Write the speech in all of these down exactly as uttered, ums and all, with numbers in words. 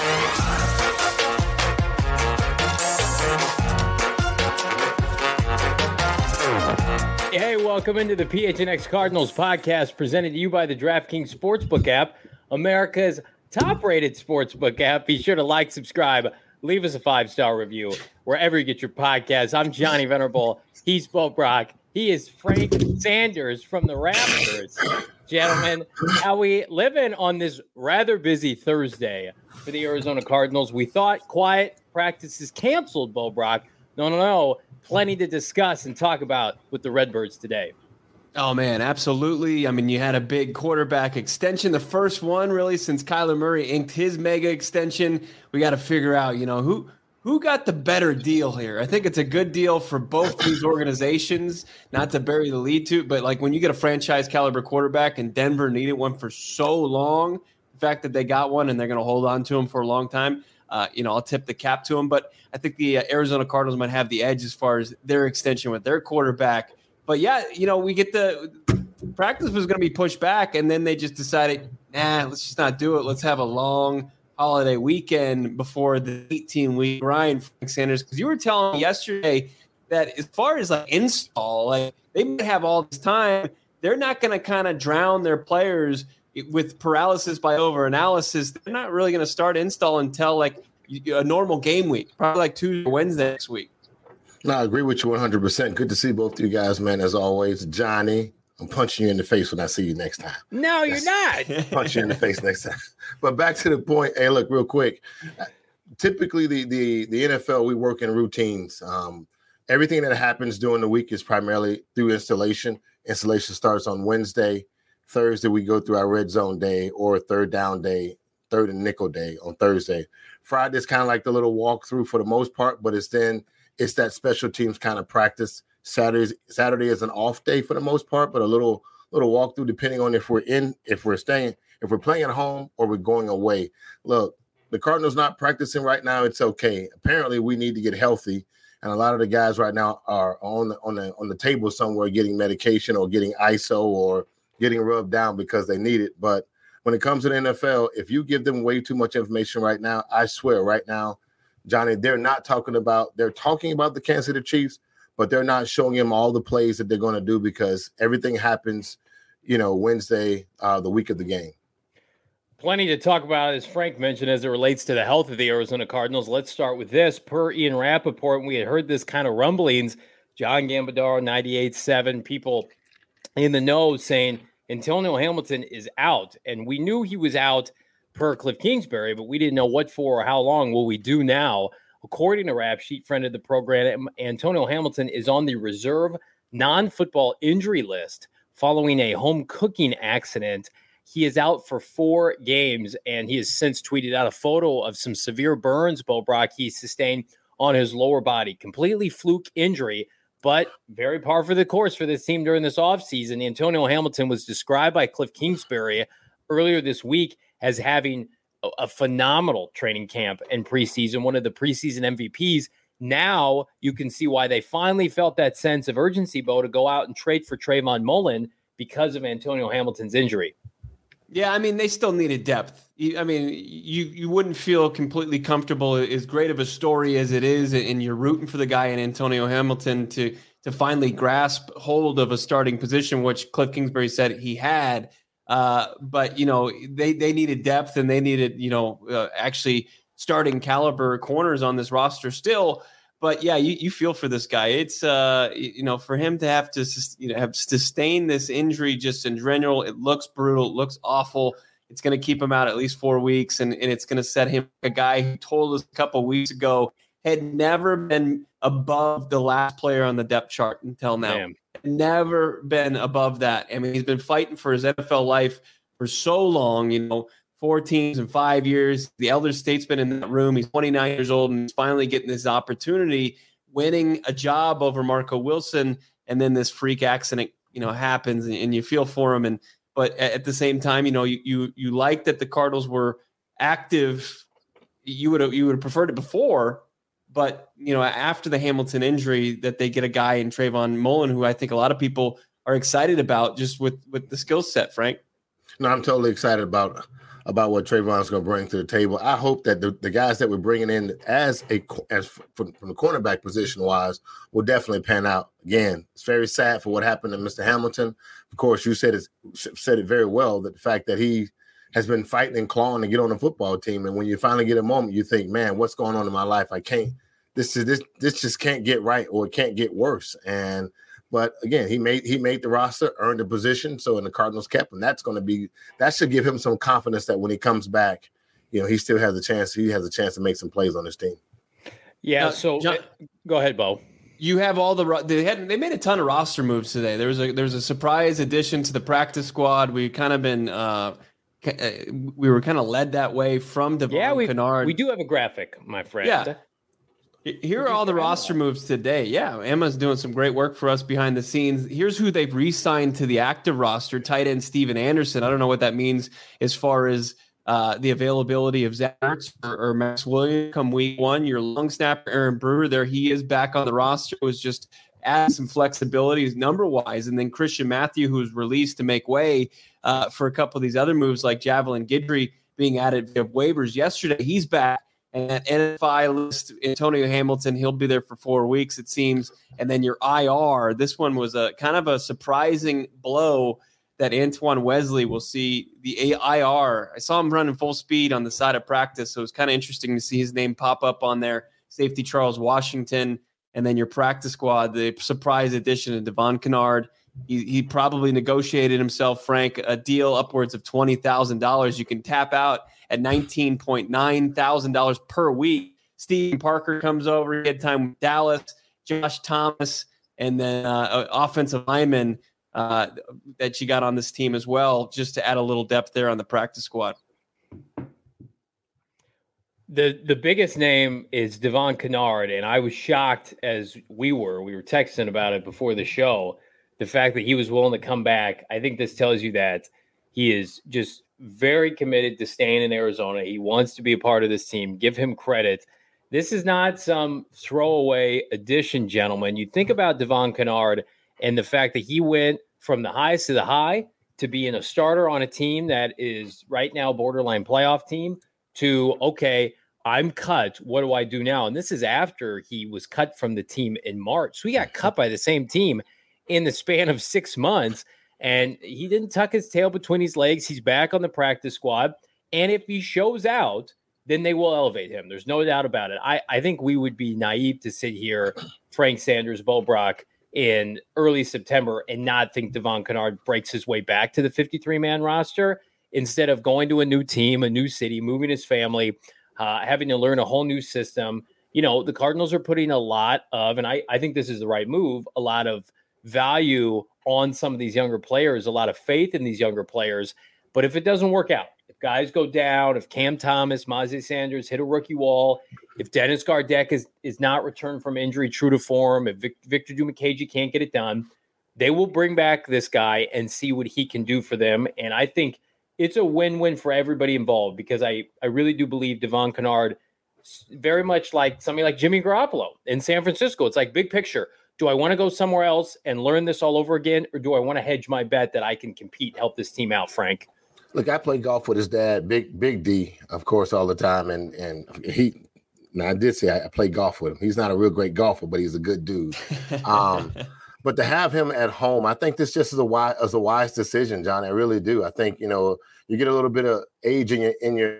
Hey, welcome into the P H N X Cardinals podcast presented to you by the DraftKings Sportsbook app, America's top-rated sportsbook app. Be sure to like, subscribe, leave us a five-star review wherever you get your podcasts. I'm Johnny Venerable. He's Bo Brock. He is Frank Sanders from the Raptors. Gentlemen, how we living on this rather busy Thursday for the Arizona Cardinals? We thought quiet practices canceled, Bo Brock. No, no, no. Plenty to discuss and talk about with the Redbirds today. Oh, man, absolutely. I mean, you had a big quarterback extension, the first one really since Kyler Murray inked his mega extension. We got to figure out, you know, who who got the better deal here. I think it's a good deal for both these organizations, not to bury the lead to, but like when you get a franchise caliber quarterback and Denver needed one for so long, the fact that they got one and they're going to hold on to him for a long time, Uh, you know, I'll tip the cap to them, but I think the uh, Arizona Cardinals might have the edge as far as their extension with their quarterback. But yeah, you know, we get the practice was going to be pushed back, and then they just decided, nah, let's just not do it. Let's have a long holiday weekend before the eighteen-week grind, Frank Sanders. Because you were telling me yesterday that as far as like install, like they might have all this time, they're not going to kind of drown their players with paralysis by overanalysis. They're not really going to start install until like a normal game week, probably like Tuesday or Wednesday next week. No, I agree with you one hundred percent. Good to see both of you guys, man, as always. Johnny, I'm punching you in the face when I see you next time. No, you're not. Punch you in the face next time. But back to the point. Hey, look, real quick. Typically, the the, the N F L, we work in routines. Um, everything that happens during the week is primarily through installation. Installation starts on Wednesday. Thursday, we go through our red zone day or third down day, third and nickel day on Thursday. Friday is kind of like the little walkthrough for the most part, but it's then it's that special teams kind of practice. Saturday Saturday is an off day for the most part, but a little little walkthrough depending on if we're in, if we're staying, if we're playing at home or we're going away. Look, the Cardinals not practicing right now. It's okay. Apparently, we need to get healthy, and a lot of the guys right now are on the on the on the table somewhere getting medication or getting I S O or getting rubbed down because they need it. But when it comes to the N F L, if you give them way too much information right now, I swear right now, Johnny, they're not talking about, they're talking about the Kansas City Chiefs, but they're not showing him all the plays that they're going to do because everything happens, you know, Wednesday, uh, the week of the game. Plenty to talk about, as Frank mentioned, as it relates to the health of the Arizona Cardinals. Let's start with this. Per Ian Rappaport, we had heard this kind of rumblings. John Gambadaro, ninety-eight point seven, people in the know saying Antonio Hamilton is out. And we knew he was out per Cliff Kingsbury, but we didn't know what for or how long. Will we do now? According to Rap Sheet, friend of the program, Antonio Hamilton is on the reserve non-football injury list following a home cooking accident. He is out for four games, and he has since tweeted out a photo of some severe burns, Bo Brock, he sustained on his lower body. Completely fluke injury, but very par for the course for this team during this offseason. Antonio Hamilton was described by Cliff Kingsbury earlier this week as having a, a phenomenal training camp and preseason, one of the preseason M V Ps. Now you can see why they finally felt that sense of urgency, Bo, to go out and trade for Trayvon Mullen because of Antonio Hamilton's injury. Yeah, I mean, they still needed depth. I mean, you you wouldn't feel completely comfortable, as great of a story as it is, and you're rooting for the guy in Antonio Hamilton to to finally grasp hold of a starting position, which Cliff Kingsbury said he had. Uh, but, you know, they, they needed depth, and they needed, you know, uh, actually starting caliber corners on this roster still. But, yeah, you, you feel for this guy. It's, uh, you know, for him to have to, you know, have sustained this injury just in general, it looks brutal. It looks awful. It's going to keep him out at least four weeks, and, and it's going to set him, a guy who told us a couple of weeks ago had never been above the last player on the depth chart until now. Damn. Never been above that. I mean, he's been fighting for his N F L life for so long, you know, four teams in five years. The elder statesman in that room. He's twenty-nine years old, and he's finally getting this opportunity, winning a job over Marco Wilson, and then this freak accident, you know, happens, and, and you feel for him. And but at the same time, you know, you you you like that the Cardinals were active. You would have you would have preferred it before, but you know, after the Hamilton injury, that they get a guy in Trayvon Mullen, who I think a lot of people are excited about, just with with the skill set. Frank, no, I'm totally excited about about what Trayvon is going to bring to the table. I hope that the, the guys that we're bringing in as a as from, from the cornerback position wise will definitely pan out. Again, it's very sad for what happened to Mister Hamilton. Of course, you said it said it very well, that the fact that he has been fighting and clawing to get on the football team, and when you finally get a moment, you think, man, what's going on in my life? I can't. This is this this just can't get right, or it can't get worse. And but again, he made he made the roster, earned a position, so in the Cardinals kept him. That's going to be that should give him some confidence that when he comes back, you know, he still has a chance. He has a chance to make some plays on his team. Yeah. Now, so John, go ahead, Bo. You have all the they had they made a ton of roster moves today. There was a there was a surprise addition to the practice squad. We kind of been uh, we were kind of led that way from Devon yeah, we, Kennard. We do have a graphic, my friend. Yeah. Here are all the roster moves today. Yeah, Emma's doing some great work for us behind the scenes. Here's who they've re-signed to the active roster: tight end Steven Anderson. I don't know what that means as far as uh, the availability of Zach Ertz or, or Max Williams come week one. Your long snapper Aaron Brewer, there he is back on the roster. It was just adding some flexibility number wise, and then Christian Matthew, who was released to make way uh, for a couple of these other moves like Javelin Guidry being added via waivers yesterday. He's back. And that N F I list, Antonio Hamilton, he'll be there for four weeks, it seems. And then your I R, this one was a kind of a surprising blow that Antoine Wesley will see the I R. I saw him running full speed on the side of practice, so it was kind of interesting to see his name pop up on there. Safety Charles Washington, and then your practice squad, the surprise addition of Devon Kennard. He, he probably negotiated himself, Frank, a deal upwards of twenty thousand dollars. You can tap out at nineteen point nine thousand dollars per week. Stephen Parker comes over. He had time with Dallas, Josh Thomas, and then uh, offensive lineman uh, that you got on this team as well, just to add a little depth there on the practice squad. The the biggest name is Devon Kennard, and I was shocked as we were. We were texting about it before the show. The fact that he was willing to come back, I think this tells you that he is just very committed to staying in Arizona. He wants to be a part of this team. Give him credit. This is not some throwaway addition, gentlemen. You think about Devon Kennard and the fact that he went from the highest to the high to being a starter on a team that is right now borderline playoff team to, okay, I'm cut. What do I do now? And this is after he was cut from the team in March. So he got cut by the same team in the span of six months. And he didn't tuck his tail between his legs. He's back on the practice squad. And if he shows out, then they will elevate him. There's no doubt about it. I, I think we would be naive to sit here, Frank Sanders, Bo Brock, in early September and not think Devon Kennard breaks his way back to the fifty-three man roster instead of going to a new team, a new city, moving his family, uh, having to learn a whole new system. You know, the Cardinals are putting a lot of, and I, I think this is the right move, a lot of value on some of these younger players, a lot of faith in these younger players. But if it doesn't work out, if guys go down, if Cam Thomas, Myjai Sanders hit a rookie wall, if Dennis Gardeck is, is not returned from injury true to form, if Vic, Victor Dimukeje can't get it done, they will bring back this guy and see what he can do for them. And I think it's a win-win for everybody involved because I, I really do believe Devon Kennard, very much like somebody like Jimmy Garoppolo in San Francisco. It's like big picture. Do I want to go somewhere else and learn this all over again, or do I want to hedge my bet that I can compete, help this team out, Frank? Look, I play golf with his dad, Big Big D, of course, all the time, and and he. Now I did say I, I play golf with him. He's not a real great golfer, but he's a good dude. Um, but to have him at home, I think this just is a wise, is a wise decision, John. I really do. I think you know you get a little bit of age in your in your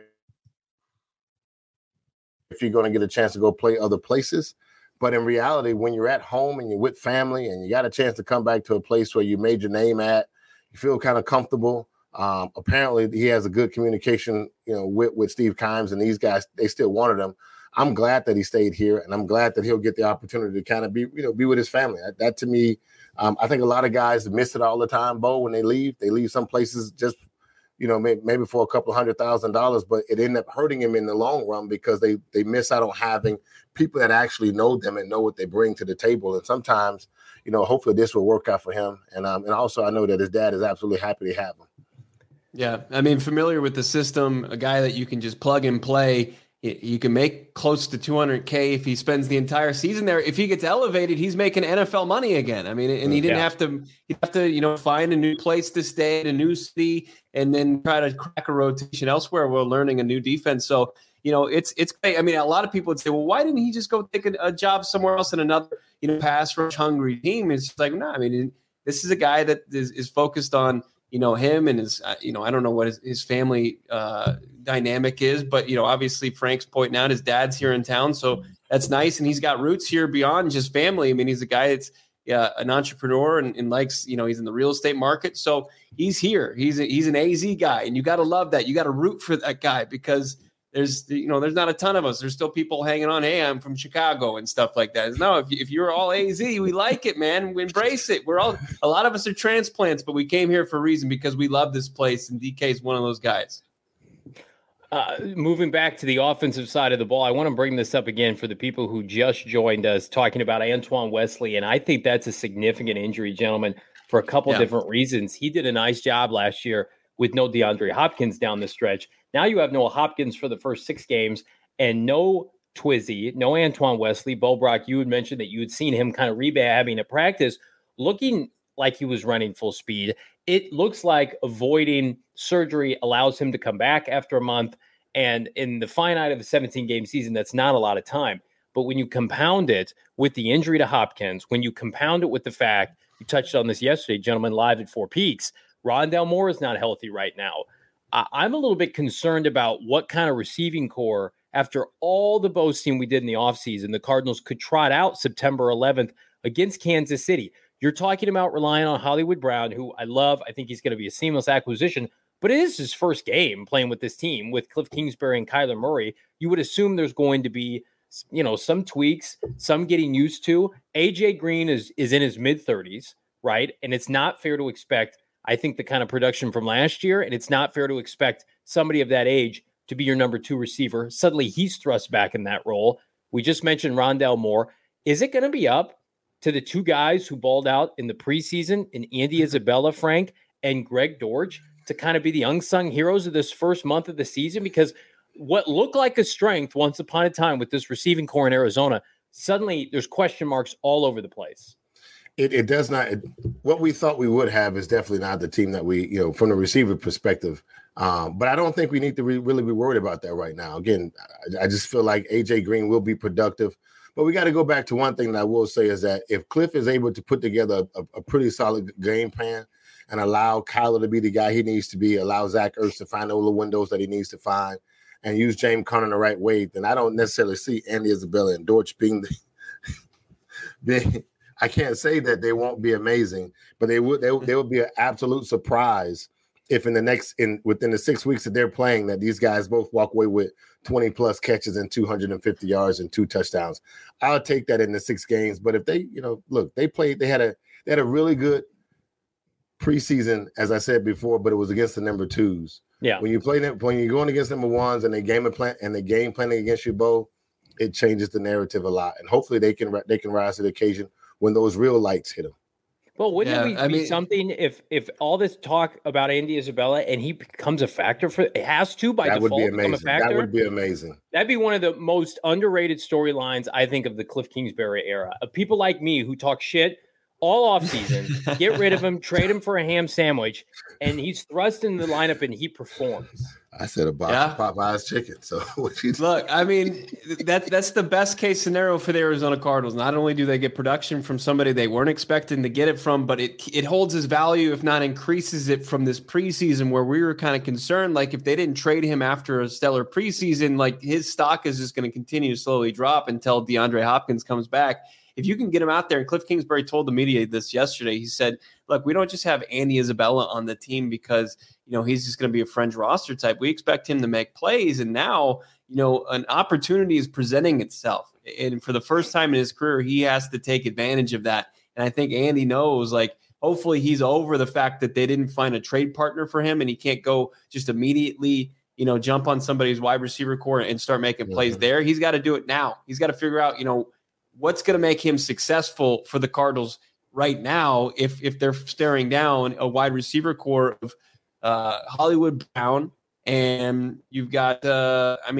if you're going to get a chance to go play other places. But in reality, when you're at home and you're with family and you got a chance to come back to a place where you made your name at, you feel kind of comfortable. Um, apparently, he has a good communication, you know, with, with Steve Kimes and these guys. They still wanted him. I'm glad that he stayed here, and I'm glad that he'll get the opportunity to kind of be, you know, be with his family. That, that to me, um, I think a lot of guys miss it all the time, Bo, when they leave. They leave some places just, you know, maybe, maybe for a couple of hundred thousand dollars, but it ended up hurting him in the long run because they they miss out on having people that actually know them and know what they bring to the table. And sometimes, you know, hopefully this will work out for him. And um, and also I know that his dad is absolutely happy to have him. Yeah, I mean, familiar with the system, a guy that you can just plug and play you can make close to two hundred K if he spends the entire season there. If he gets elevated, he's making N F L money again. I mean, and he didn't yeah. have to, he'd have to, you know, find a new place to stay, a new city, and then try to crack a rotation elsewhere while learning a new defense. So, you know, it's, it's great. I mean, a lot of people would say, well, why didn't he just go take a, a job somewhere else in another, you know, pass rush hungry team? It's like, no, I mean, this is a guy that is, is focused on, you know, him and his, uh, you know, I don't know what his, his family uh, dynamic is, but, you know, obviously Frank's pointing out his dad's here in town. So that's nice. And he's got roots here beyond just family. I mean, he's a guy that's uh, an entrepreneur and, and likes, you know, he's in the real estate market. So he's here. He's a, he's an A Z guy. And you got to love that. You got to root for that guy because there's, you know, there's not a ton of us. There's still people hanging on. Hey, I'm from Chicago and stuff like that. No, if, if you're all A Z, we like it, man. We embrace it. We're all, a lot of us are transplants, but we came here for a reason because we love this place. And D K is one of those guys. Uh, moving back to the offensive side of the ball, I want to bring this up again for the people who just joined us talking about Antoine Wesley. And I think that's a significant injury, gentlemen, for a couple yeah. different reasons. He did a nice job last year with no DeAndre Hopkins down the stretch. Now you have Noah Hopkins for the first six games and no Twizzy, no Antoine Wesley. Bo Brock, you had mentioned that you had seen him kind of rehabbing at practice, looking like he was running full speed. It looks like avoiding surgery allows him to come back after a month. And in the finite of a seventeen-game season, that's not a lot of time. But when you compound it with the injury to Hopkins, when you compound it with the fact, you touched on this yesterday, gentlemen, live at Four Peaks, Rondale Moore is not healthy right now. I'm a little bit concerned about what kind of receiving core, after all the boasting we did in the offseason, the Cardinals could trot out September eleventh against Kansas City. You're talking about relying on Hollywood Brown, who I love. I think he's going to be a seamless acquisition, but it is his first game playing with this team with Cliff Kingsbury and Kyler Murray. You would assume there's going to be, you know, some tweaks, some getting used to. A J Green is, is in his mid-thirties, right? And it's not fair to expect, I think, the kind of production from last year, and it's not fair to expect somebody of that age to be your number two receiver. Suddenly he's thrust back in that role. We just mentioned Rondale Moore. Is it going to be up to the two guys who balled out in the preseason, in Andy Isabella, Frank, and Greg Dortch, to kind of be the unsung heroes of this first month of the season? Because what looked like a strength once upon a time with this receiving core in Arizona, suddenly there's question marks all over the place. It, it does not. It, what we thought we would have is definitely not the team that we, you know, from the receiver perspective. Um, but I don't think we need to re- really be worried about that right now. Again, I, I just feel like A J Green will be productive. But we got to go back to one thing that I will say is that if Cliff is able to put together a, a pretty solid game plan and allow Kyler to be the guy he needs to be, allow Zach Ertz to find all the windows that he needs to find, and use James Conner the right way, then I don't necessarily see Andy Isabella and Dortch being the being, I can't say that they won't be amazing, but they would they, they would be an absolute surprise if in the next in within the six weeks that they're playing that these guys both walk away with twenty plus catches and two hundred fifty yards and two touchdowns. I'll take that in the six games. But if they, you know, look, they played, they had a they had a really good preseason, as I said before, but it was against the number twos. Yeah. When you play them, when you're going against number ones and they game plan and they game planning against you, Bo, it changes the narrative a lot. And hopefully they can they can rise to the occasion when those real lights hit them. Well, wouldn't yeah, it be, I mean, something if if all this talk about Andy Isabella and he becomes a factor for it has to by that default would be amazing. become a factor? That would be amazing. That'd be one of the most underrated storylines, I think, of the Cliff Kingsbury era. Of people like me who talk shit all offseason, get rid of him, trade him for a ham sandwich, and he's thrust in the lineup and he performs. I said a box yeah. of Popeye's chicken. So what you look, I mean, that's that's the best case scenario for the Arizona Cardinals. Not only do they get production from somebody they weren't expecting to get it from, but it it holds his value, if not increases it, from this preseason where we were kind of concerned. Like if they didn't trade him after a stellar preseason, like his stock is just going to continue to slowly drop until DeAndre Hopkins comes back. If you can get him out there, and Cliff Kingsbury told the media this yesterday, he said, look, we don't just have Andy Isabella on the team because, you know, he's just going to be a fringe roster type. We expect him to make plays. And now, you know, an opportunity is presenting itself. And for the first time in his career, he has to take advantage of that. And I think Andy knows, like, hopefully he's over the fact that they didn't find a trade partner for him and he can't go just immediately, you know, jump on somebody's wide receiver core and start making plays mm-hmm. there. He's got to do it now. He's got to figure out, you know, what's going to make him successful for the Cardinals right now if if they're staring down a wide receiver core of uh, Hollywood Brown, and you've got, uh, I mean,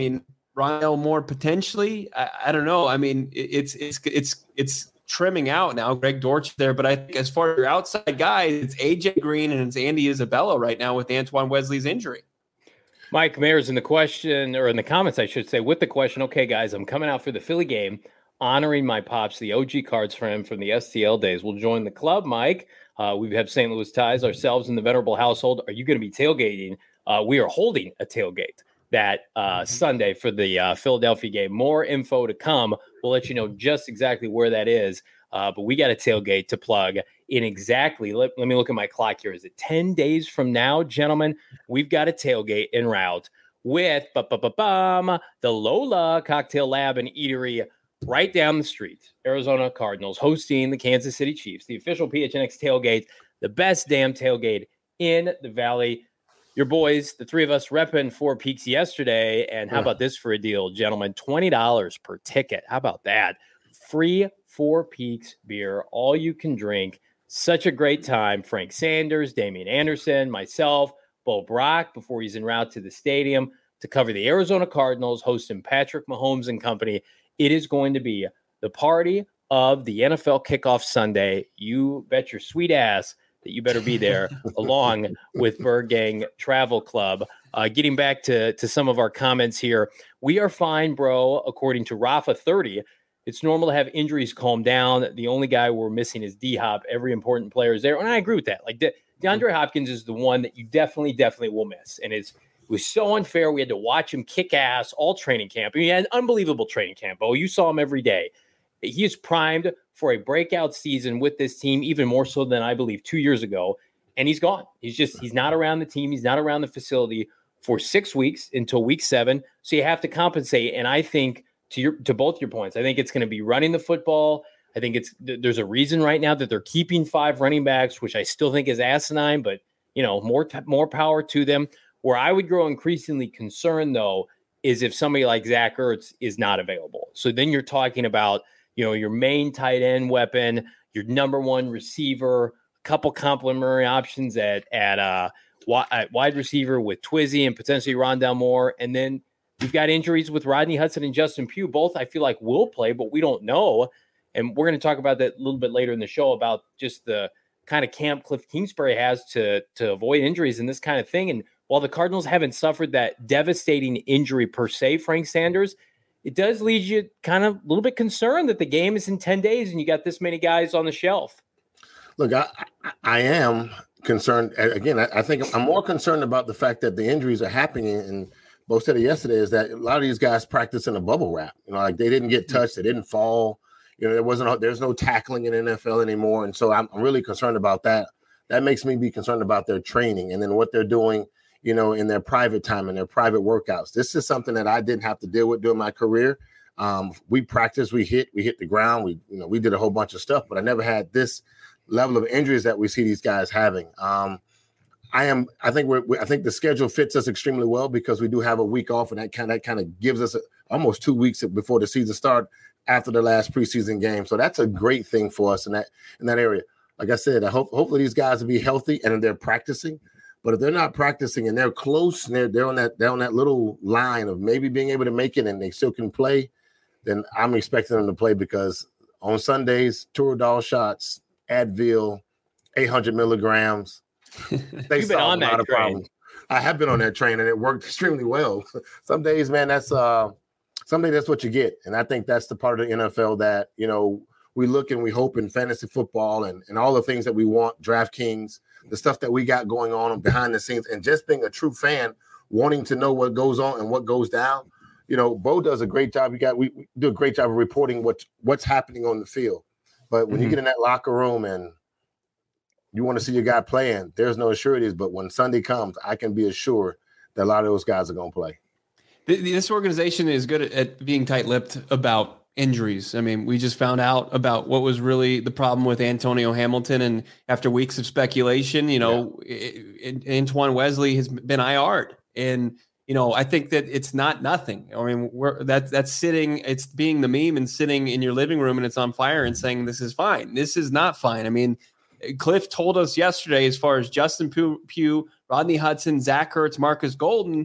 Rondale Moore potentially. I, I don't know. I mean, it, it's it's it's it's trimming out now. Greg Dortch there, but I think as far as your outside guys, it's A J Green and it's Andy Isabella right now with Antoine Wesley's injury. Mike Mayer's in the question, or in the comments, I should say, with the question, okay, guys, I'm coming out for the Philly game, honoring my pops, the O G cards for him from the S T L days. We'll join the club, Mike. Uh, we have Saint Louis ties ourselves in the Venerable household. Are you going to be tailgating? Uh, we are holding a tailgate that uh, Sunday for the uh, Philadelphia game. More info to come. We'll let you know just exactly where that is. Uh, but we got a tailgate to plug in exactly. Let, let me look at my clock here. Is it ten days from now, gentlemen? We've got a tailgate en route with ba-ba-ba-bum, the Lola Cocktail Lab and Eatery right down the street. Arizona Cardinals hosting the Kansas City Chiefs, the official P H N X tailgate, the best damn tailgate in the Valley. Your boys, the three of us, repping Four Peaks yesterday. And how about this for a deal, gentlemen? twenty dollars per ticket. How about that? Free Four Peaks beer, all you can drink. Such a great time. Frank Sanders, Damian Anderson, myself, Bo Brock, before he's en route to the stadium to cover the Arizona Cardinals, hosting Patrick Mahomes and company. It is going to be the party of the N F L kickoff Sunday. You bet your sweet ass that you better be there along with Bird Gang Travel Club. Uh, getting back to, to some of our comments here. We are fine, bro, according to Rafa thirty. It's normal to have injuries calm down. The only guy we're missing is D-Hop. Every important player is there. And I agree with that. Like De- DeAndre Hopkins is the one that you definitely, definitely will miss. And it's, it was so unfair. We had to watch him kick ass all training camp. I mean, he had an unbelievable training camp. Oh, you saw him every day. He is primed for a breakout season with this team, even more so than I believe two years ago. And he's gone. He's just, he's not around the team. He's not around the facility for six weeks until week seven. So you have to compensate. And I think, To your to both your points, I think it's going to be running the football. I think it's there's a reason right now that they're keeping five running backs, which I still think is asinine, but you know, more more power to them. Where I would grow increasingly concerned, though, is if somebody like Zach Ertz is not available. So then you're talking about, you know, your main tight end weapon, your number one receiver, a couple complementary options at at uh at wide receiver with Twizzy and potentially Rondale Moore, and then we've got injuries with Rodney Hudson and Justin Pugh. Both I feel like will play, but we don't know. And we're going to talk about that a little bit later in the show about just the kind of camp Cliff Kingsbury has to, to avoid injuries and this kind of thing. And while the Cardinals haven't suffered that devastating injury per se, Frank Sanders, it does leave you kind of a little bit concerned that the game is in ten days and you got this many guys on the shelf. Look, I, I am concerned. Again, I, I think I'm more concerned about the fact that the injuries are happening. And Bo said it yesterday, is that a lot of these guys practice in a bubble wrap. You know, like they didn't get touched, they didn't fall. You know, there wasn't there's no tackling in the N F L anymore, and so I'm, I'm really concerned about that. That makes me be concerned about their training and then what they're doing, you know, in their private time and their private workouts. This is something that I didn't have to deal with during my career. Um, we practiced, we hit, we hit the ground, we you know, we did a whole bunch of stuff, but I never had this level of injuries that we see these guys having. Um, I am. I think we're. I think the schedule fits us extremely well because we do have a week off, and that kind of kind of gives us a, almost two weeks before the season start after the last preseason game. So that's a great thing for us in that in that area. Like I said, I hope hopefully these guys will be healthy and they're practicing. But if they're not practicing and they're close and they're they're on that they're on that little line of maybe being able to make it and they still can play, then I'm expecting them to play because on Sundays, Toradol shots, Advil, eight hundred milligrams. They You've been on that train. Problems. I have been on that train and it worked extremely well. Some days, man, that's uh, some days that's what you get. And I think that's the part of the N F L that, you know, we look and we hope in fantasy football and, and all the things that we want, DraftKings, the stuff that we got going on behind the scenes, and just being a true fan, wanting to know what goes on and what goes down. You know, Bo does a great job. You got we, we do a great job of reporting what's what's happening on the field. But when mm-hmm. you get in that locker room and you want to see your guy playing, there's no sureties. But when Sunday comes, I can be assured that a lot of those guys are going to play. This organization is good at being tight-lipped about injuries. I mean, we just found out about what was really the problem with Antonio Hamilton. And after weeks of speculation, you know, yeah. it, it, Antoine Wesley has been I R'd. And, you know, I think that it's not nothing. I mean, we're that's that's sitting, it's being the meme and sitting in your living room and it's on fire and saying this is fine. This is not fine. I mean, Cliff told us yesterday, as far as Justin Pugh, Rodney Hudson, Zach Ertz, Marcus Golden,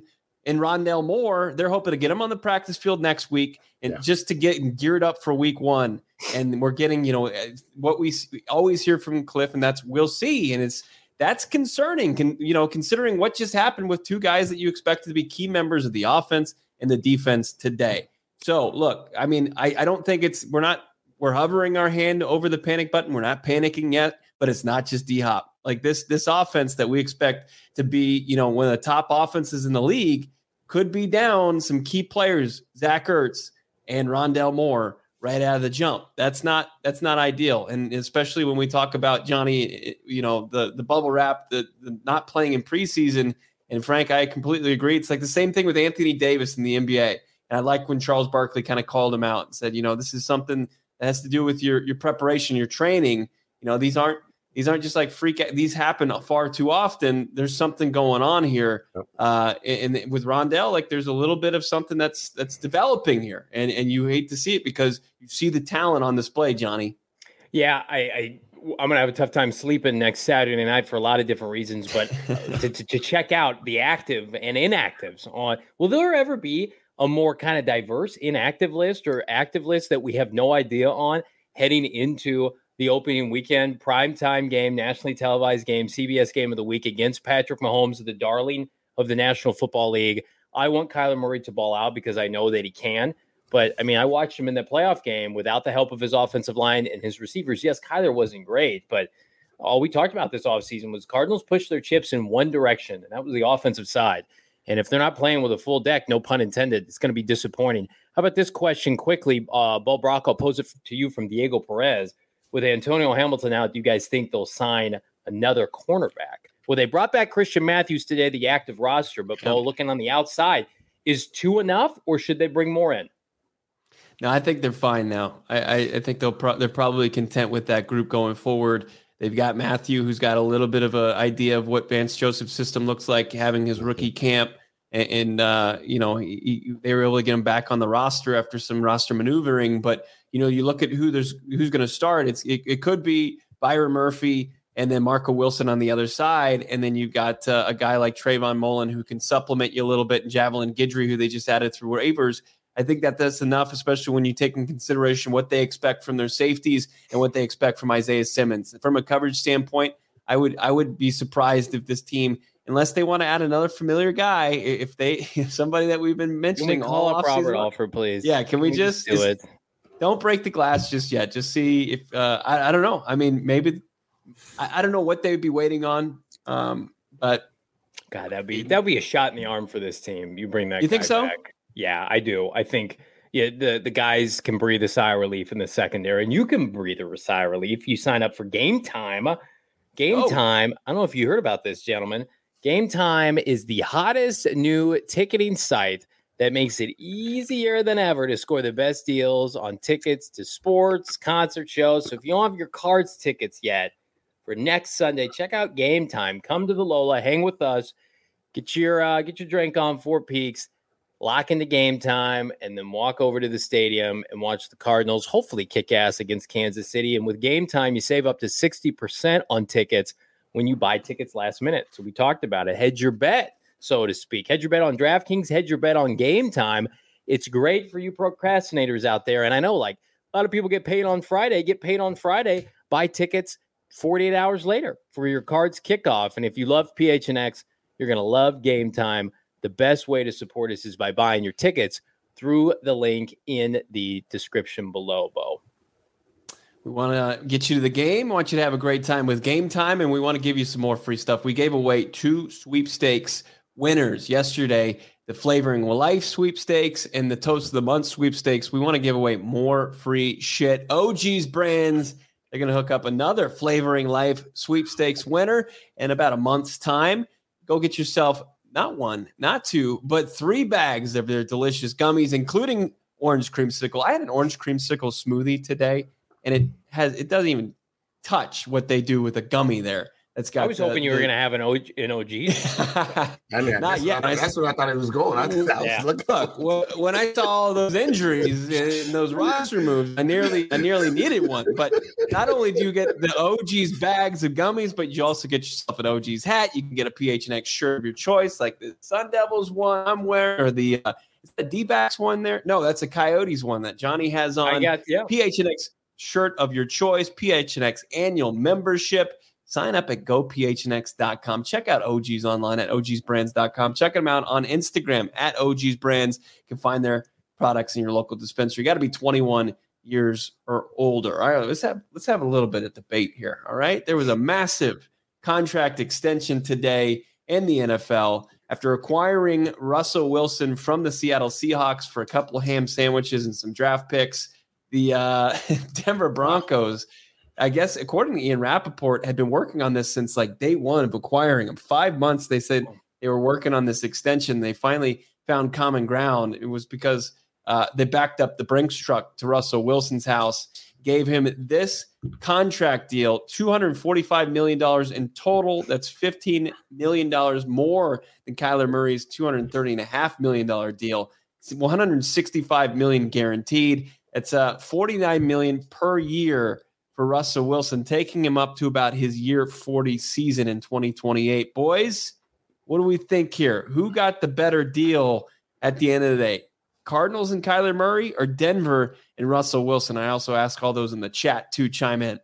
And Rondale Moore, they're hoping to get him on the practice field next week and yeah. just to get geared up for week one. And we're getting, you know, what we always hear from Cliff, and that's we'll see. And it's that's concerning, Can, you know, considering what just happened with two guys that you expected to be key members of the offense and the defense today. So, look, I mean, I, I don't think it's we're not we're hovering our hand over the panic button. We're not panicking yet, but it's not just D-Hop. Like this, this offense that we expect to be, you know, one of the top offenses in the league could be down some key players, Zach Ertz and Rondale Moore, right out of the jump. That's not that's not ideal, and especially when we talk about Johnny, you know, the the bubble wrap, the, the not playing in preseason. And Frank, I completely agree. It's like the same thing with Anthony Davis in the N B A. And I like when Charles Barkley kind of called him out and said, you know, this is something that has to do with your your preparation, your training. You know, these aren't. These aren't just like freak. These happen far too often. There's something going on here, uh, and, and with Rondale, like there's a little bit of something that's that's developing here, and and you hate to see it because you see the talent on display, Johnny. Yeah, I, I I'm gonna have a tough time sleeping next Saturday night for a lot of different reasons, but to, to to check out the active and inactives on. Will there ever be a more kind of diverse inactive list or active list that we have no idea on heading into the opening weekend, primetime game, nationally televised game, C B S game of the week against Patrick Mahomes, the darling of the National Football League? I want Kyler Murray to ball out because I know that he can. But, I mean, I watched him in the playoff game without the help of his offensive line and his receivers. Yes, Kyler wasn't great, but all we talked about this offseason was Cardinals pushed their chips in one direction, and that was the offensive side. And if they're not playing with a full deck, no pun intended, it's going to be disappointing. How about this question quickly? Uh, Bo Brock, I'll pose it to you from Diego Perez. With Antonio Hamilton out, do you guys think they'll sign another cornerback? Well, they brought back Christian Matthews today, the active roster, but Bo, looking on the outside, is two enough, or should they bring more in? No, I think they're fine now. I, I, I think they'll pro- they're probably content with that group going forward. They've got Matthew, who's got a little bit of an idea of what Vance Joseph's system looks like, having his rookie camp, and, and uh, you know he, he, they were able to get him back on the roster after some roster maneuvering, but. You know, you look at who there's who's going to start. It's it, it could be Byron Murphy and then Marco Wilson on the other side, and then you've got uh, a guy like Trayvon Mullen who can supplement you a little bit, and Javelin Guidry, who they just added through waivers. I think that that's enough, especially when you take in consideration what they expect from their safeties and what they expect from Isaiah Simmons. From a coverage standpoint, I would I would be surprised if this team, unless they want to add another familiar guy, if they if somebody that we've been mentioning, can we call up Robert Alford, please? Yeah, can we, can just, we just do it? Don't break the glass just yet. Just see if uh, I, I don't know. I mean, maybe I, I don't know what they'd be waiting on. Um, but God, that'd be that'd be a shot in the arm for this team. You bring that. You guy think so? Back. Yeah, I do. I think yeah, the the guys can breathe a sigh of relief in the secondary, and you can breathe a sigh of relief. You sign up for Game Time. Game oh. Time. I don't know if you heard about this, gentlemen. Game Time is the hottest new ticketing site that makes it easier than ever to score the best deals on tickets to sports, concert shows. So if you don't have your Cards tickets yet for next Sunday, check out Game Time. Come to the Lola, hang with us, get your uh, get your drink on Four Peaks, lock into Game Time, and then walk over to the stadium and watch the Cardinals hopefully kick ass against Kansas City. And with Game Time, you save up to sixty percent on tickets when you buy tickets last minute. So we talked about it. Hedge your bet, so to speak. Hedge your bet on DraftKings, hedge your bet on Game Time. It's great for you procrastinators out there. And I know like a lot of people get paid on Friday, get paid on Friday, buy tickets forty-eight hours later for your Cards kickoff. And if you love P H N X, you're going to love Game Time. The best way to support us is by buying your tickets through the link in the description below, Bo. We want to get you to the game. We want you to have a great time with Game Time, and we want to give you some more free stuff. We gave away two sweepstakes winners yesterday, the Flavoring Life sweepstakes and the Toast of the Month sweepstakes. We want to give away more free shit. O G's Brands, they're going to hook up another Flavoring Life sweepstakes winner in about a month's time. Go get yourself not one, not two, but three bags of their delicious gummies, including orange creamsicle. I had an orange creamsicle smoothie today, and it has it doesn't even touch what they do with a gummy there. That's got. I was the, hoping you the, were going to have an, o- an O G. I mean, Not that's, yet. what I, that's where I thought it was going. I, I was Yeah. looking. Look, well, when I saw all those injuries and those roster moves, I nearly, I nearly needed one. But not only do you get the O G's bags of gummies, but you also get yourself an O G's hat. You can get a P H N X shirt of your choice, like the Sun Devils one I'm wearing, or the uh, is the D-backs one there. No, that's a Coyotes one that Johnny has on. I got yeah. P H N X shirt of your choice, P H N X annual membership. Sign up at go p h n x dot com. Check out O G's online at o g s brands dot com. Check them out on Instagram at O G's Brands. You can find their products in your local dispensary. You got to be twenty-one years or older. All right, let's have let's have a little bit of debate here. All right, there was a massive contract extension today in the N F L after acquiring Russell Wilson from the Seattle Seahawks for a couple of ham sandwiches and some draft picks. The uh, Denver Broncos, I guess, according to Ian Rappaport, had been working on this since like day one of acquiring him. Five months, they said they were working on this extension. They finally found common ground. It was because uh, they backed up the Brinks truck to Russell Wilson's house, gave him this contract deal, two hundred forty-five million dollars in total. That's fifteen million dollars more than Kyler Murray's two hundred thirty point five million dollars deal. It's one hundred sixty-five million dollars guaranteed. It's uh, forty-nine million dollars per year for Russell Wilson, taking him up to about his year forty season in twenty twenty-eight. Boys, what do we think here? Who got the better deal at the end of the day? Cardinals and Kyler Murray or Denver and Russell Wilson? I also ask all those in the chat to chime in.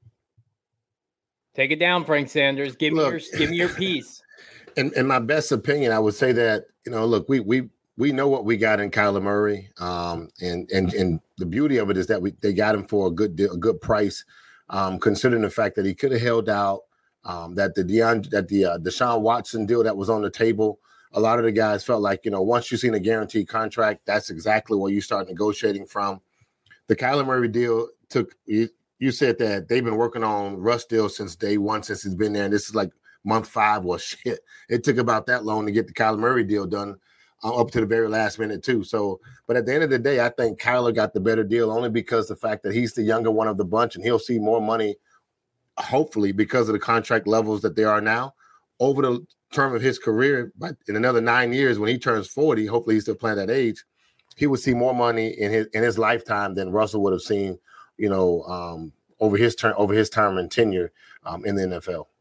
Take it down, Frank Sanders. Give Look, me your give me your piece. In, in my best opinion, I would say that, you know, look, we we we know what we got in Kyler Murray, um, and and and the beauty of it is that we they got him for a good deal, a good price, um, considering the fact that he could have held out, um, that the Deion, that the uh, Deshaun Watson deal that was on the table. A lot of the guys felt like, you know, once you've seen a guaranteed contract, that's exactly where you start negotiating from. The Kyler Murray deal took. You, you said that they've been working on Russ deal since day one, since he's been there, and this is like month five. Well, shit, it took about that long to get the Kyler Murray deal done. Uh, up to the very last minute too. So, but at the end of the day, I think Kyler got the better deal only because the fact that he's the younger one of the bunch and he'll see more money, hopefully, because of the contract levels that they are now over the term of his career. But in another nine years, when he turns forty, hopefully he's still playing that age, he would see more money in his in his lifetime than Russell would have seen, you know, um, over his term over his term and tenure um, in the N F L.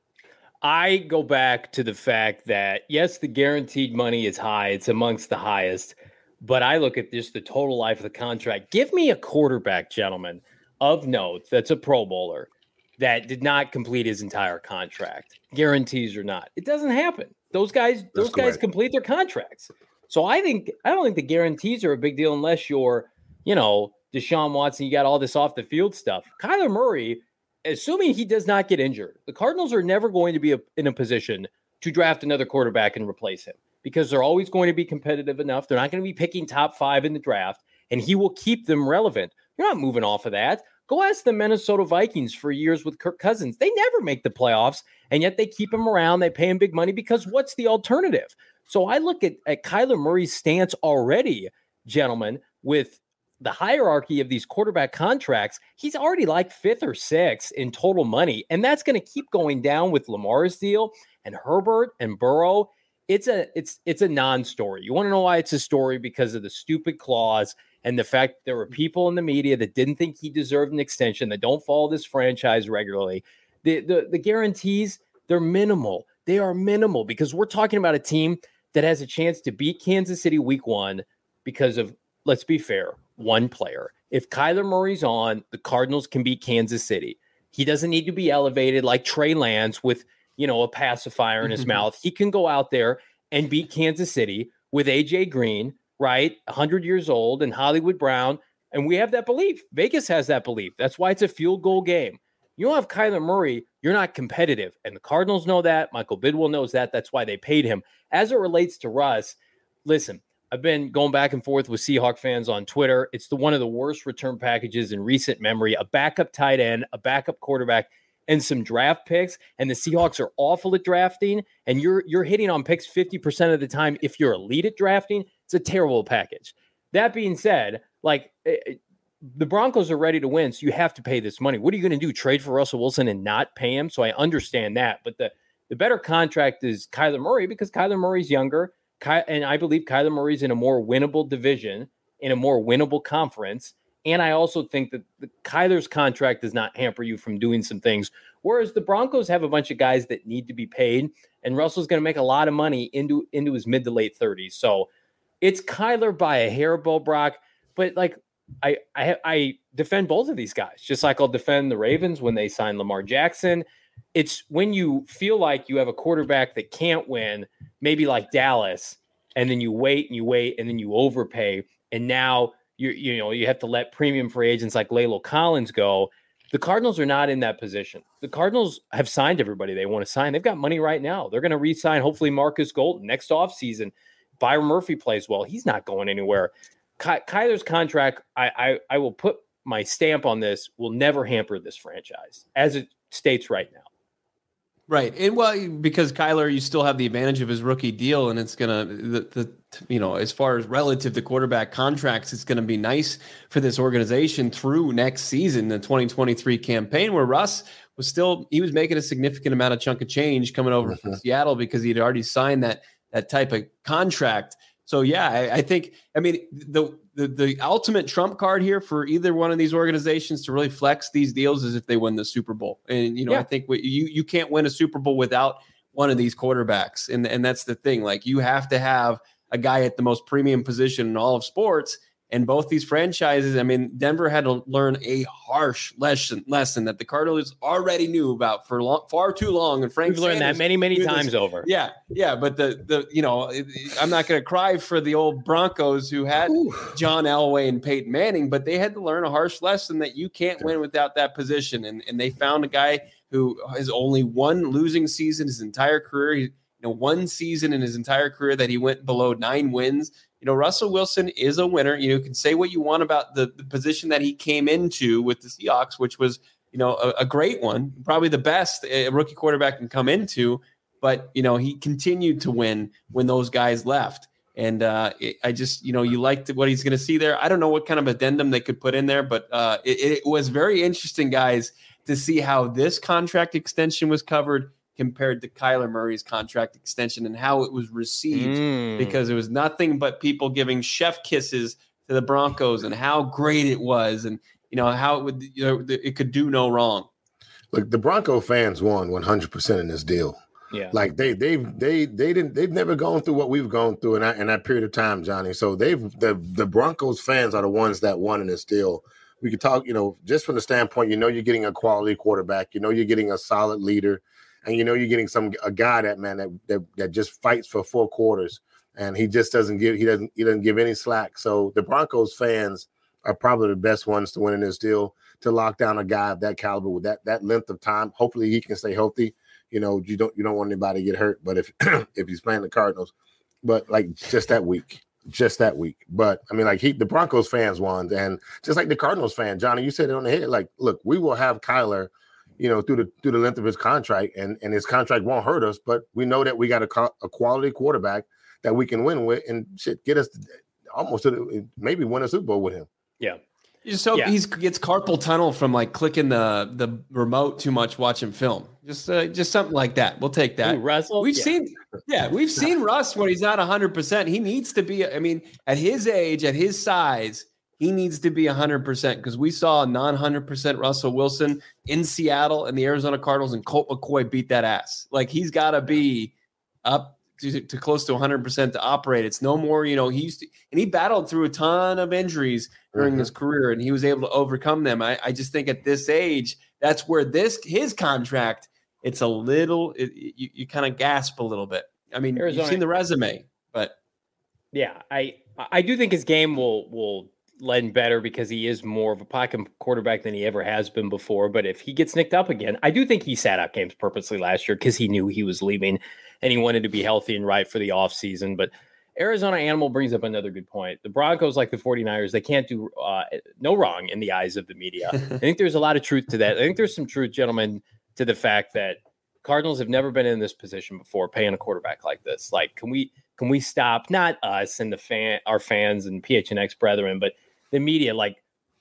I go back to the fact that, yes, the guaranteed money is high. It's amongst the highest. But I look at just the total life of the contract. Give me a quarterback, gentlemen, of note that's a Pro Bowler that did not complete his entire contract, guarantees or not. It doesn't happen. Those guys, those That's guys correct. complete their contracts. So I think I don't think the guarantees are a big deal unless you're, you know, Deshaun Watson. You got all this off the field stuff. Kyler Murray, assuming he does not get injured, the Cardinals are never going to be a, in a position to draft another quarterback and replace him because they're always going to be competitive enough. They're not going to be picking top five in the draft, and he will keep them relevant. You're not moving off of that. Go ask the Minnesota Vikings for years with Kirk Cousins. They never make the playoffs, and yet they keep him around. They pay him big money because what's the alternative? So I look at, at Kyler Murray's stance already, gentlemen, with the hierarchy of these quarterback contracts. He's already like fifth or sixth in total money, and that's going to keep going down with Lamar's deal and Herbert and Burrow. It's a it's it's a non-story. You want to know why it's a story? Because of the stupid clause and the fact that there were people in the media that didn't think he deserved an extension, that don't follow this franchise regularly. The the, the guarantees, they're minimal. They are minimal because we're talking about a team that has a chance to beat Kansas City week one because of, let's be fair, one player. If Kyler Murray's on, the Cardinals can beat Kansas City. He doesn't need to be elevated like Trey Lance with, you know, a pacifier in his mouth. He can go out there and beat Kansas City with A J Green, right? one hundred years old, and Hollywood Brown. And we have that belief. Vegas has that belief. That's why it's a field goal game. You don't have Kyler Murray, you're not competitive. And the Cardinals know that. Michael Bidwell knows that. That's why they paid him. As it relates to Russ, listen, I've been going back and forth with Seahawk fans on Twitter. It's the one of the worst return packages in recent memory. A backup tight end, a backup quarterback, and some draft picks. And the Seahawks are awful at drafting. And you're you're hitting on picks fifty percent of the time. If you're elite at drafting, it's a terrible package. That being said, like the Broncos are ready to win, so you have to pay this money. What are you going to do? Trade for Russell Wilson and not pay him? So I understand that. But the, the better contract is Kyler Murray because Kyler Murray's younger. Ky- and I believe Kyler Murray's in a more winnable division, in a more winnable conference. And I also think that the Kyler's contract does not hamper you from doing some things. Whereas the Broncos have a bunch of guys that need to be paid. And Russell's going to make a lot of money into, into his mid to late thirties. So it's Kyler by a hair, Bo Brock. But like, I, I I defend both of these guys, just like I'll defend the Ravens when they sign Lamar Jackson. It's when you feel like you have a quarterback that can't win, maybe like Dallas, and then you wait and you wait and then you overpay, and now you you know you have to let premium free agents like Lalo Collins go. The Cardinals are not in that position. The Cardinals have signed everybody they want to sign. They've got money right now. They're going to re-sign hopefully Marcus Golden next offseason. Byron Murphy plays well. He's not going anywhere. Ky- Kyler's contract, I, I I will put my stamp on this, will never hamper this franchise as it states right now. Right. And well, because Kyler, you still have the advantage of his rookie deal, and it's going to, the, the you know, as far as relative to quarterback contracts, it's going to be nice for this organization through next season, the twenty twenty-three campaign, where Russ was still, he was making a significant amount of chunk of change coming over mm-hmm. from Seattle because he'd already signed that that type of contract. So, yeah, I, I think, I mean, the, the the ultimate trump card here for either one of these organizations to really flex these deals is if they win the Super Bowl. And, you know, yeah. I think what, you you can't win a Super Bowl without one of these quarterbacks. And, and that's the thing. Like, you have to have a guy at the most premium position in all of sports. And both these franchises, I mean, Denver had to learn a harsh lesson lesson that the Cardinals already knew about for long, far too long. And Frank We've learned Sanders that many, many times this. over. Yeah, yeah. But the the you know, I'm not going to cry for the old Broncos who had Ooh. John Elway and Peyton Manning, but they had to learn a harsh lesson that you can't win without that position. And and they found a guy who has only one losing season his entire career. He, you know, one season in his entire career that he went below nine wins. You know, Russell Wilson is a winner. You know, you can say what you want about the, the position that he came into with the Seahawks, which was, you know, a, a great one, probably the best a rookie quarterback can come into. But, you know, he continued to win when those guys left. And uh, it, I just, you know, you liked what he's going to see there. I don't know what kind of addendum they could put in there, but uh, it, it was very interesting, guys, to see how this contract extension was covered compared to Kyler Murray's contract extension and how it was received, mm. because it was nothing but people giving chef kisses to the Broncos and how great it was, and you know how it would, you know, it could do no wrong. Look, the Bronco fans won one hundred percent in this deal. Yeah, like they they've they they didn't they've never gone through what we've gone through in that, in that period of time, Johnny. So they've the the Broncos fans are the ones that won in this deal. We could talk, you know, just from the standpoint, you know, you're getting a quality quarterback, you know, you're getting a solid leader. And you know you're getting some a guy that man that, that that just fights for four quarters, and he just doesn't give he doesn't he doesn't give any slack. So the Broncos fans are probably the best ones to win in this deal, to lock down a guy of that caliber with that that length of time. Hopefully he can stay healthy. You know you don't you don't want anybody to get hurt. But if if he's playing the Cardinals, but like just that week, just that week. But I mean like he the Broncos fans won, and just like the Cardinals fan, Johnny, you said it on the head. Like look, we will have Kyler, you know, through the through the length of his contract, and, and his contract won't hurt us, but we know that we got a, a quality quarterback that we can win with, and shit, get us to, almost to the, maybe win a Super Bowl with him. Yeah. You just hope yeah. he gets carpal tunnel from like clicking the the remote too much watching film. Just uh, just something like that. We'll take that. Ooh, Russell? We've yeah. seen, yeah, we've seen Russ when he's not one hundred percent. He needs to be, I mean, at his age, at his size, he needs to be one hundred percent, because we saw a non one hundred percent Russell Wilson in Seattle and the Arizona Cardinals, and Colt McCoy beat that ass. Like, he's got to be up to, to close to one hundred percent to operate. It's no more, you know, he used to, and he battled through a ton of injuries during mm-hmm. his career, and he was able to overcome them. I, I just think at this age, that's where this, his contract, it's a little, it, you, you kind of gasp a little bit. I mean, Arizona, you've seen the resume, but. Yeah, I, I do think his game will, will, lend better because he is more of a pocket quarterback than he ever has been before. But if he gets nicked up again, I do think he sat out games purposely last year because he knew he was leaving and he wanted to be healthy and right for the offseason. But Arizona Animal brings up another good point. The Broncos, like the 49ers, they can't do uh, no wrong in the eyes of the media. I think there's a lot of truth to that. I think there's some truth, gentlemen, to the fact that Cardinals have never been in this position before, paying a quarterback like this. Like, can we can we stop, not us and the fan, our fans and P H N X brethren, but the media, like,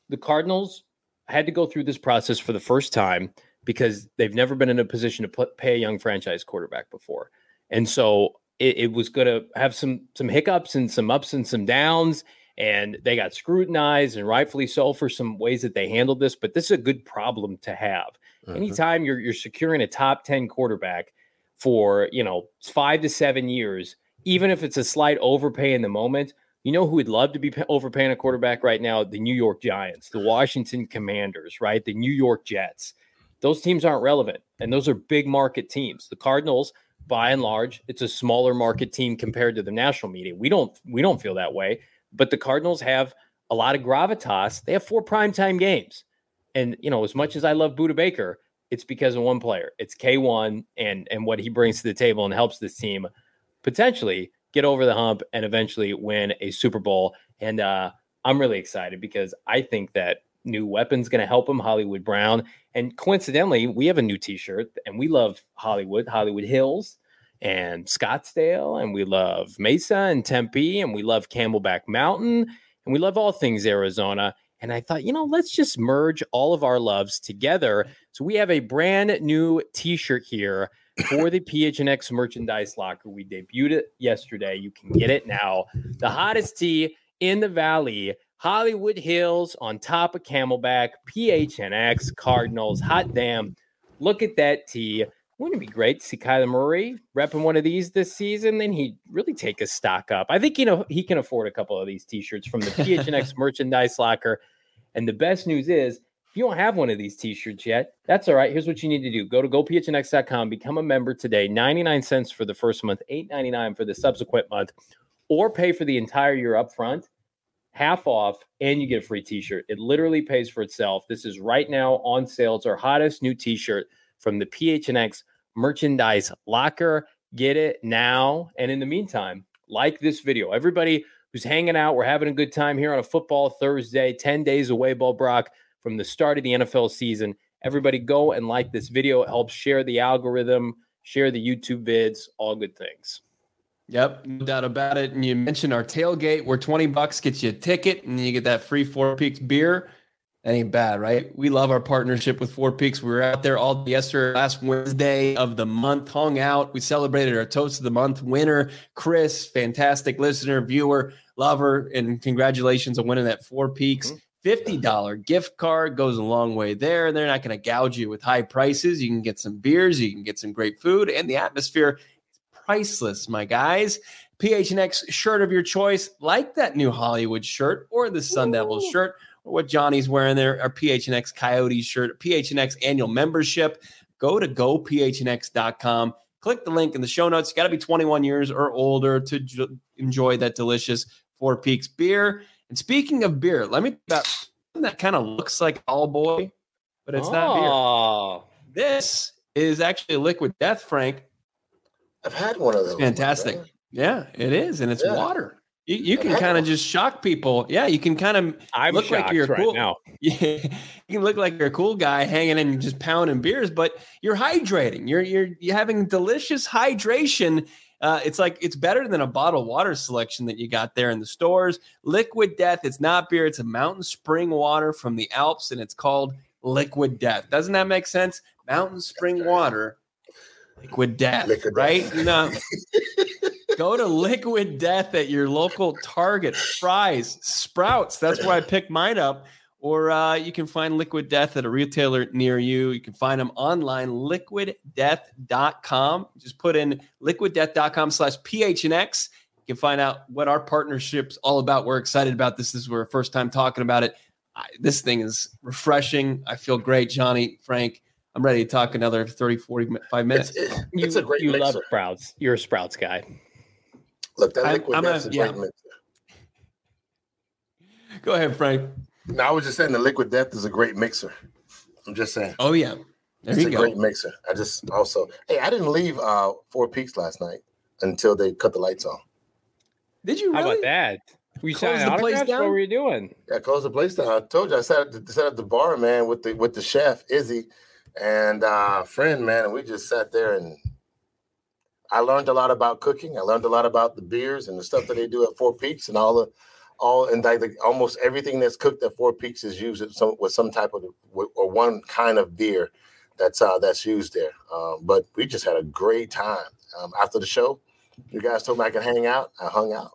the Cardinals had to go through this process for the first time because they've never been in a position to put, pay a young franchise quarterback before. And so it, it was going to have some some hiccups and some ups and some downs, and they got scrutinized, and rightfully so, for some ways that they handled this. But this is a good problem to have. Mm-hmm. Anytime you're you're securing a top ten quarterback for, you know, five to seven years, even if it's a slight overpay in the moment, you know who would love to be overpaying a quarterback right now? The New York Giants, the Washington Commanders, right? The New York Jets. Those teams aren't relevant, and those are big market teams. The Cardinals, by and large, it's a smaller market team compared to the national media. We don't we don't feel that way, but the Cardinals have a lot of gravitas. They have four primetime games. And, you know, as much as I love Budda Baker, it's because of one player. It's K one and, and what he brings to the table and helps this team potentially get over the hump and eventually win a Super Bowl. And uh, I'm really excited because I think that new weapon's going to help him, Hollywood Brown. And coincidentally, we have a new t-shirt, and we love Hollywood, Hollywood Hills and Scottsdale, and we love Mesa and Tempe, and we love Camelback Mountain, and we love all things Arizona. And I thought, you know, let's just merge all of our loves together. So we have a brand new t-shirt here for the P H N X merchandise locker. We debuted it yesterday. You can get it now. The hottest tee in the Valley, Hollywood Hills on top of Camelback, P H N X, Cardinals. Hot damn. Look at that tee. Wouldn't it be great to see Kyler Murray repping one of these this season? Then he'd really take a stock up. I think, you know, he can afford a couple of these t-shirts from the P H N X merchandise locker. And the best news is, if you don't have one of these t-shirts yet, that's all right. Here's what you need to do. Go to go P H N X dot com, become a member today, ninety-nine cents for the first month, eight ninety-nine for the subsequent month, or pay for the entire year up front, half off, and you get a free t-shirt. It literally pays for itself. This is right now on sale. It's our hottest new t-shirt from the P H N X merchandise locker. Get it now. And in the meantime, like this video. Everybody who's hanging out, we're having a good time here on a football Thursday, ten days away, Bo Brock, from the start of the N F L season. Everybody go and like this video. It helps share the algorithm, share the YouTube vids, all good things. Yep, no doubt about it. And you mentioned our tailgate where twenty bucks gets you a ticket and you get that free Four Peaks beer. That ain't bad, right? We love our partnership with Four Peaks. We were out there all yesterday, last Wednesday of the month, hung out. We celebrated our Toast of the Month winner, Chris, fantastic listener, viewer, lover, and congratulations on winning that Four Peaks. fifty dollars gift card goes a long way there. They're not going to gouge you with high prices. You can get some beers, you can get some great food, and the atmosphere is priceless, my guys. P H N X shirt of your choice, like that new Hollywood shirt or the Sun Devils shirt, or what Johnny's wearing there, our P H N X Coyotes shirt, P H N X annual membership. Go to go P H N X dot com. Click the link in the show notes. You got to be twenty-one years or older to j- enjoy that delicious Four Peaks beer. And speaking of beer, let me about something that kind of looks like All Boy, but it's oh. not beer. This is actually a Liquid Death, Frank. I've had one of those. It's fantastic. Yeah, it is, and it's yeah. water. You, you can kind of just shock people. Yeah, you can kind of I'm look like you're right cool. Now. Yeah, you can look like you're a cool guy hanging in and just pounding beers, but you're hydrating. You're you're you're having delicious hydration. Uh, it's like it's better than a bottled water selection that you got there in the stores. Liquid Death. It's not beer. It's a mountain spring water from the Alps, and it's called Liquid Death. Doesn't that make sense? Mountain spring water, Liquid Death, Liquid right? Death. No. Go to Liquid Death at your local Target, Fry's, Sprouts. That's where I picked mine up. Or uh, you can find Liquid Death at a retailer near you. You can find them online, liquid death dot com. Just put in liquid death dot com slash P H N X. You can find out what our partnership's all about. We're excited about this. This is our first time talking about it. I, this thing is refreshing. I feel great, Johnny, Frank. I'm ready to talk another thirty, forty-five minutes. It's, it, it's you, a great You mixer. love Sprouts. You're a Sprouts guy. Look, that Liquid I'm, Death's I'm a, a, a great yeah. mixer. Go ahead, Frank. No, I was just saying the Liquid Death is a great mixer. I'm just saying. Oh, yeah. There it's you a go. great mixer. I just also, hey, I didn't leave uh, Four Peaks last night until they cut the lights on. Did you really? How about that? Were you Close signing the place autographs? down? What were you doing? Yeah, I closed the place down. I told you I sat at the, sat at the bar, man, with the with the chef, Izzy, and uh, friend, man, and we just sat there and I learned a lot about cooking. I learned a lot about the beers and the stuff that they do at Four Peaks and all the all and like the, almost everything that's cooked at Four Peaks is used with some, with some type of or one kind of beer that's uh, that's used there. Um, but we just had a great time um, after the show. You guys told me I could hang out. I hung out.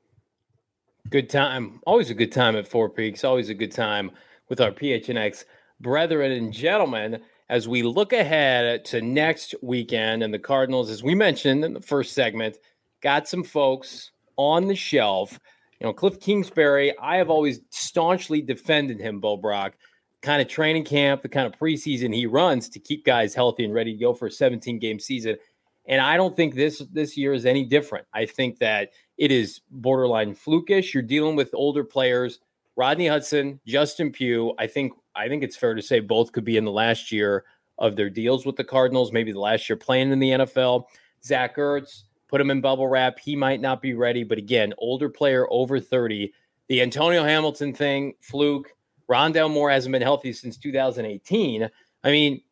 Good time. Always a good time at Four Peaks. Always a good time with our P H N X brethren and gentlemen as we look ahead to next weekend. And the Cardinals, as we mentioned in the first segment, got some folks on the shelf. You know, Cliff Kingsbury, I have always staunchly defended him, Bo Brock, kind of training camp, the kind of preseason he runs to keep guys healthy and ready to go for a seventeen-game season. And I don't think this this year is any different. I think that it is borderline flukish. You're dealing with older players, Rodney Hudson, Justin Pugh. I think I think it's fair to say both could be in the last year of their deals with the Cardinals, maybe the last year playing in the N F L. Zach Ertz, put him in bubble wrap. He might not be ready, but again, older player over thirty. The Antonio Hamilton thing, fluke. Rondale Moore hasn't been healthy since two thousand eighteen. I mean,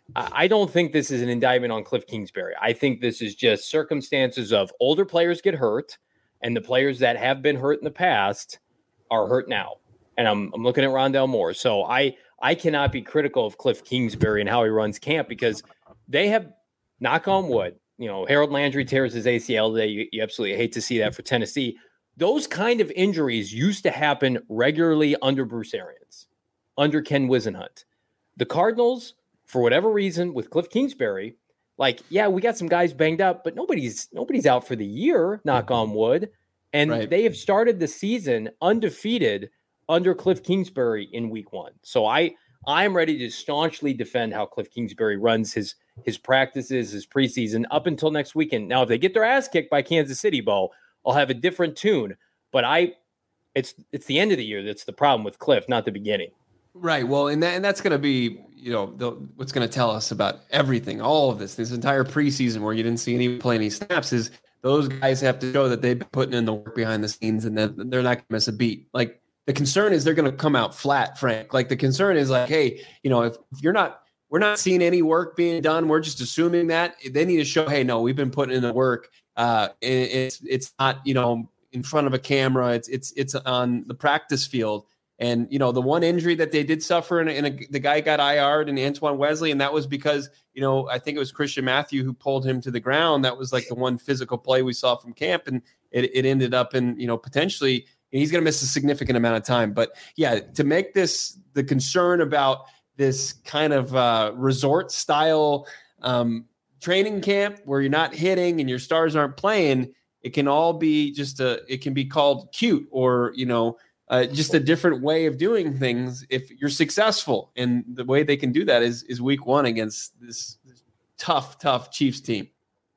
I don't think this is an indictment on Cliff Kingsbury. I think this is just circumstances of older players get hurt, and the players that have been hurt in the past are hurt now. And I'm I'm looking at Rondale Moore. So I I cannot be critical of Cliff Kingsbury and how he runs camp because they have, knock on wood, you know, Harold Landry tears his A C L today. You, you absolutely hate to see that for Tennessee. Those kind of injuries used to happen regularly under Bruce Arians, under Ken Wisenhunt. The Cardinals, for whatever reason, with Cliff Kingsbury, like, yeah, we got some guys banged up, but nobody's nobody's out for the year, knock on wood. And right. They have started the season undefeated under Cliff Kingsbury in week one. So I I'm ready to staunchly defend how Cliff Kingsbury runs his his practices, his preseason up until next weekend. Now, if they get their ass kicked by Kansas City, Bo, I'll have a different tune. But I it's it's the end of the year that's the problem with Cliff, not the beginning. Right. Well, and that, and that's going to be, you know, the, what's going to tell us about everything, all of this, this entire preseason where you didn't see any play any snaps is those guys have to show that they've been putting in the work behind the scenes and that they're not going to miss a beat. Like the concern is they're going to come out flat, Frank. Like the concern is like, hey, you know, if, if you're not, we're not seeing any work being done, we're just assuming that they need to show, hey, no, we've been putting in the work. Uh, and it's, it's not, you know, in front of a camera. It's, it's, it's on the practice field. And, you know, the one injury that they did suffer and, and a, the guy got I R'd and Antoine Wesley. And that was because, you know, I think it was Christian Matthew who pulled him to the ground. That was like the one physical play we saw from camp. And it, it ended up in, you know, potentially he's going to miss a significant amount of time. But yeah, to make this the concern about this kind of uh, resort style um, training camp where you're not hitting and your stars aren't playing, it can all be just a, it can be called cute or, you know, Uh, just a different way of doing things if you're successful. And the way they can do that is is week one against this, this tough, tough Chiefs team.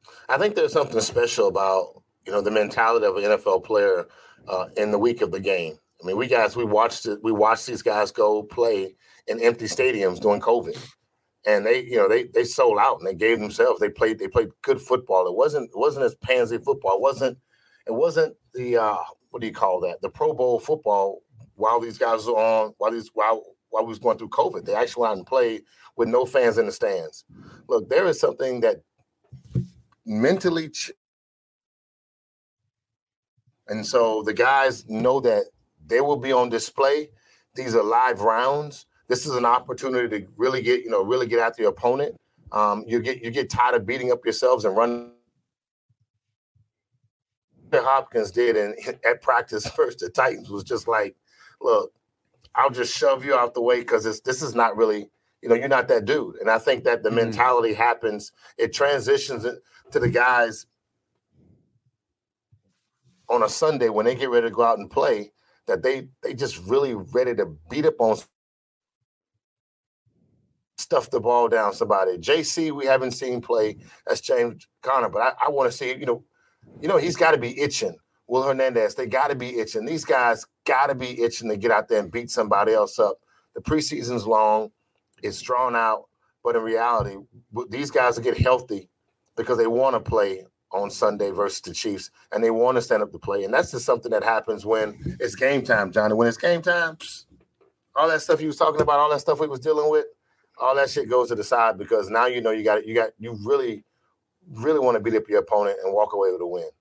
I think there's something special about, you know, the mentality of an N F L player uh, in the week of the game. I mean, we guys, we watched it. We watched these guys go play in empty stadiums during COVID. And they, you know, they they sold out and they gave themselves. They played, they played good football. It wasn't, it wasn't as pansy football. It wasn't, it wasn't the, uh, what do you call that? The Pro Bowl football while these guys were on, while these while while we was going through COVID. They actually went out and played with no fans in the stands. Look, there is something that mentally ch- and so the guys know that they will be on display. These are live rounds. This is an opportunity to really get, you know, really get after your opponent. Um, you get you get tired of beating up yourselves and running. Hopkins did in, at practice first, the Titans was just like, look, I'll just shove you out the way because this is not really, you know, you're not that dude. And I think that the mm-hmm. mentality happens, it transitions to the guys on a Sunday when they get ready to go out and play, that they they just really ready to beat up on, stuff the ball down somebody. J C, we haven't seen play. That's James Conner, but I, I want to see, you know, You know, he's got to be itching. Will Hernandez, they got to be itching. These guys got to be itching to get out there and beat somebody else up. The preseason's long. It's drawn out. But in reality, these guys will get healthy because they want to play on Sunday versus the Chiefs, and they want to stand up to play. And that's just something that happens when it's game time, Johnny. When it's game time, psst, all that stuff you was talking about, all that stuff we was dealing with, all that shit goes to the side because now you know you got you got you really – really want to beat up your opponent and walk away with a win.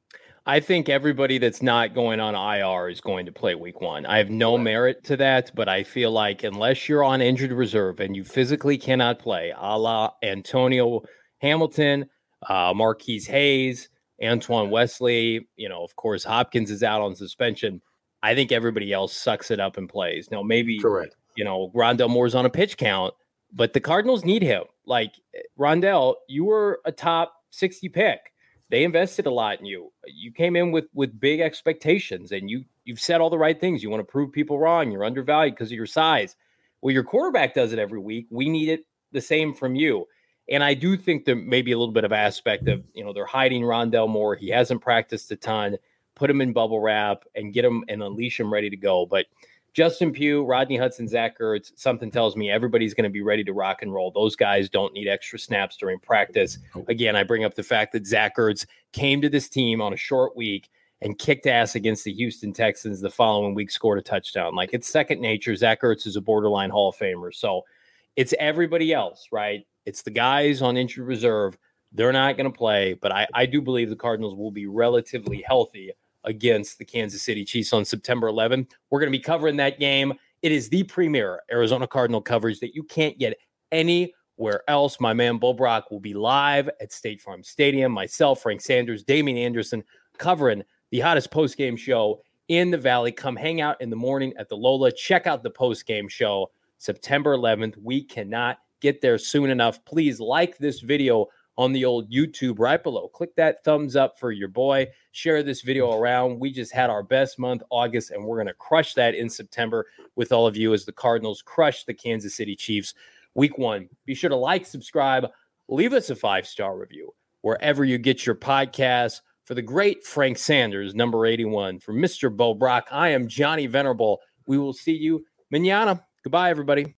I think everybody that's not going on I R is going to play week one. I have no merit to that, but I feel like unless you're on injured reserve and you physically cannot play, a la Antonio Hamilton, uh, Marquise Hayes, Antoine Wesley, you know, of course, Hopkins is out on suspension. I think everybody else sucks it up and plays. Now, maybe, Correct. you know, Rondell Moore's on a pitch count, but the Cardinals need him. Like, Rondell, you were a top sixty pick. They invested a lot in you. You came in with with big expectations, and you you've said all the right things. You want to prove people wrong. You're undervalued because of your size. Well, your quarterback does it every week. We need it the same from you. And I do think there may be a little bit of aspect of, you know, they're hiding Rondell Moore. He hasn't practiced a ton. Put him in bubble wrap and get him and unleash him ready to go. But Justin Pugh, Rodney Hudson, Zach Ertz, something tells me everybody's going to be ready to rock and roll. Those guys don't need extra snaps during practice. Again, I bring up the fact that Zach Ertz came to this team on a short week and kicked ass against the Houston Texans the following week, scored a touchdown. Like, it's second nature. Zach Ertz is a borderline Hall of Famer. So it's everybody else, right? It's the guys on injured reserve. They're not going to play, but I, I do believe the Cardinals will be relatively healthy against the Kansas City Chiefs on September eleventh. We're going to be covering that game. It is the premier Arizona Cardinal coverage that you can't get anywhere else. My man Bo Brock will be live at State Farm Stadium. Myself, Frank Sanders, Damian Anderson, covering the hottest post-game show in the Valley. Come hang out in the morning at the Lola. Check out the post-game show September eleventh. We cannot get there soon enough. Please like this video on the old YouTube right below. Click that thumbs up for your boy. Share this video around. We just had our best month, August, and we're going to crush that in September with all of you as the Cardinals crush the Kansas City Chiefs week one. Be sure to like, subscribe, leave us a five-star review wherever you get your podcasts. For the great Frank Sanders, number eighty-one, for Mister Bo Brock, I am Johnny Venerable. We will see you mañana. Goodbye, everybody.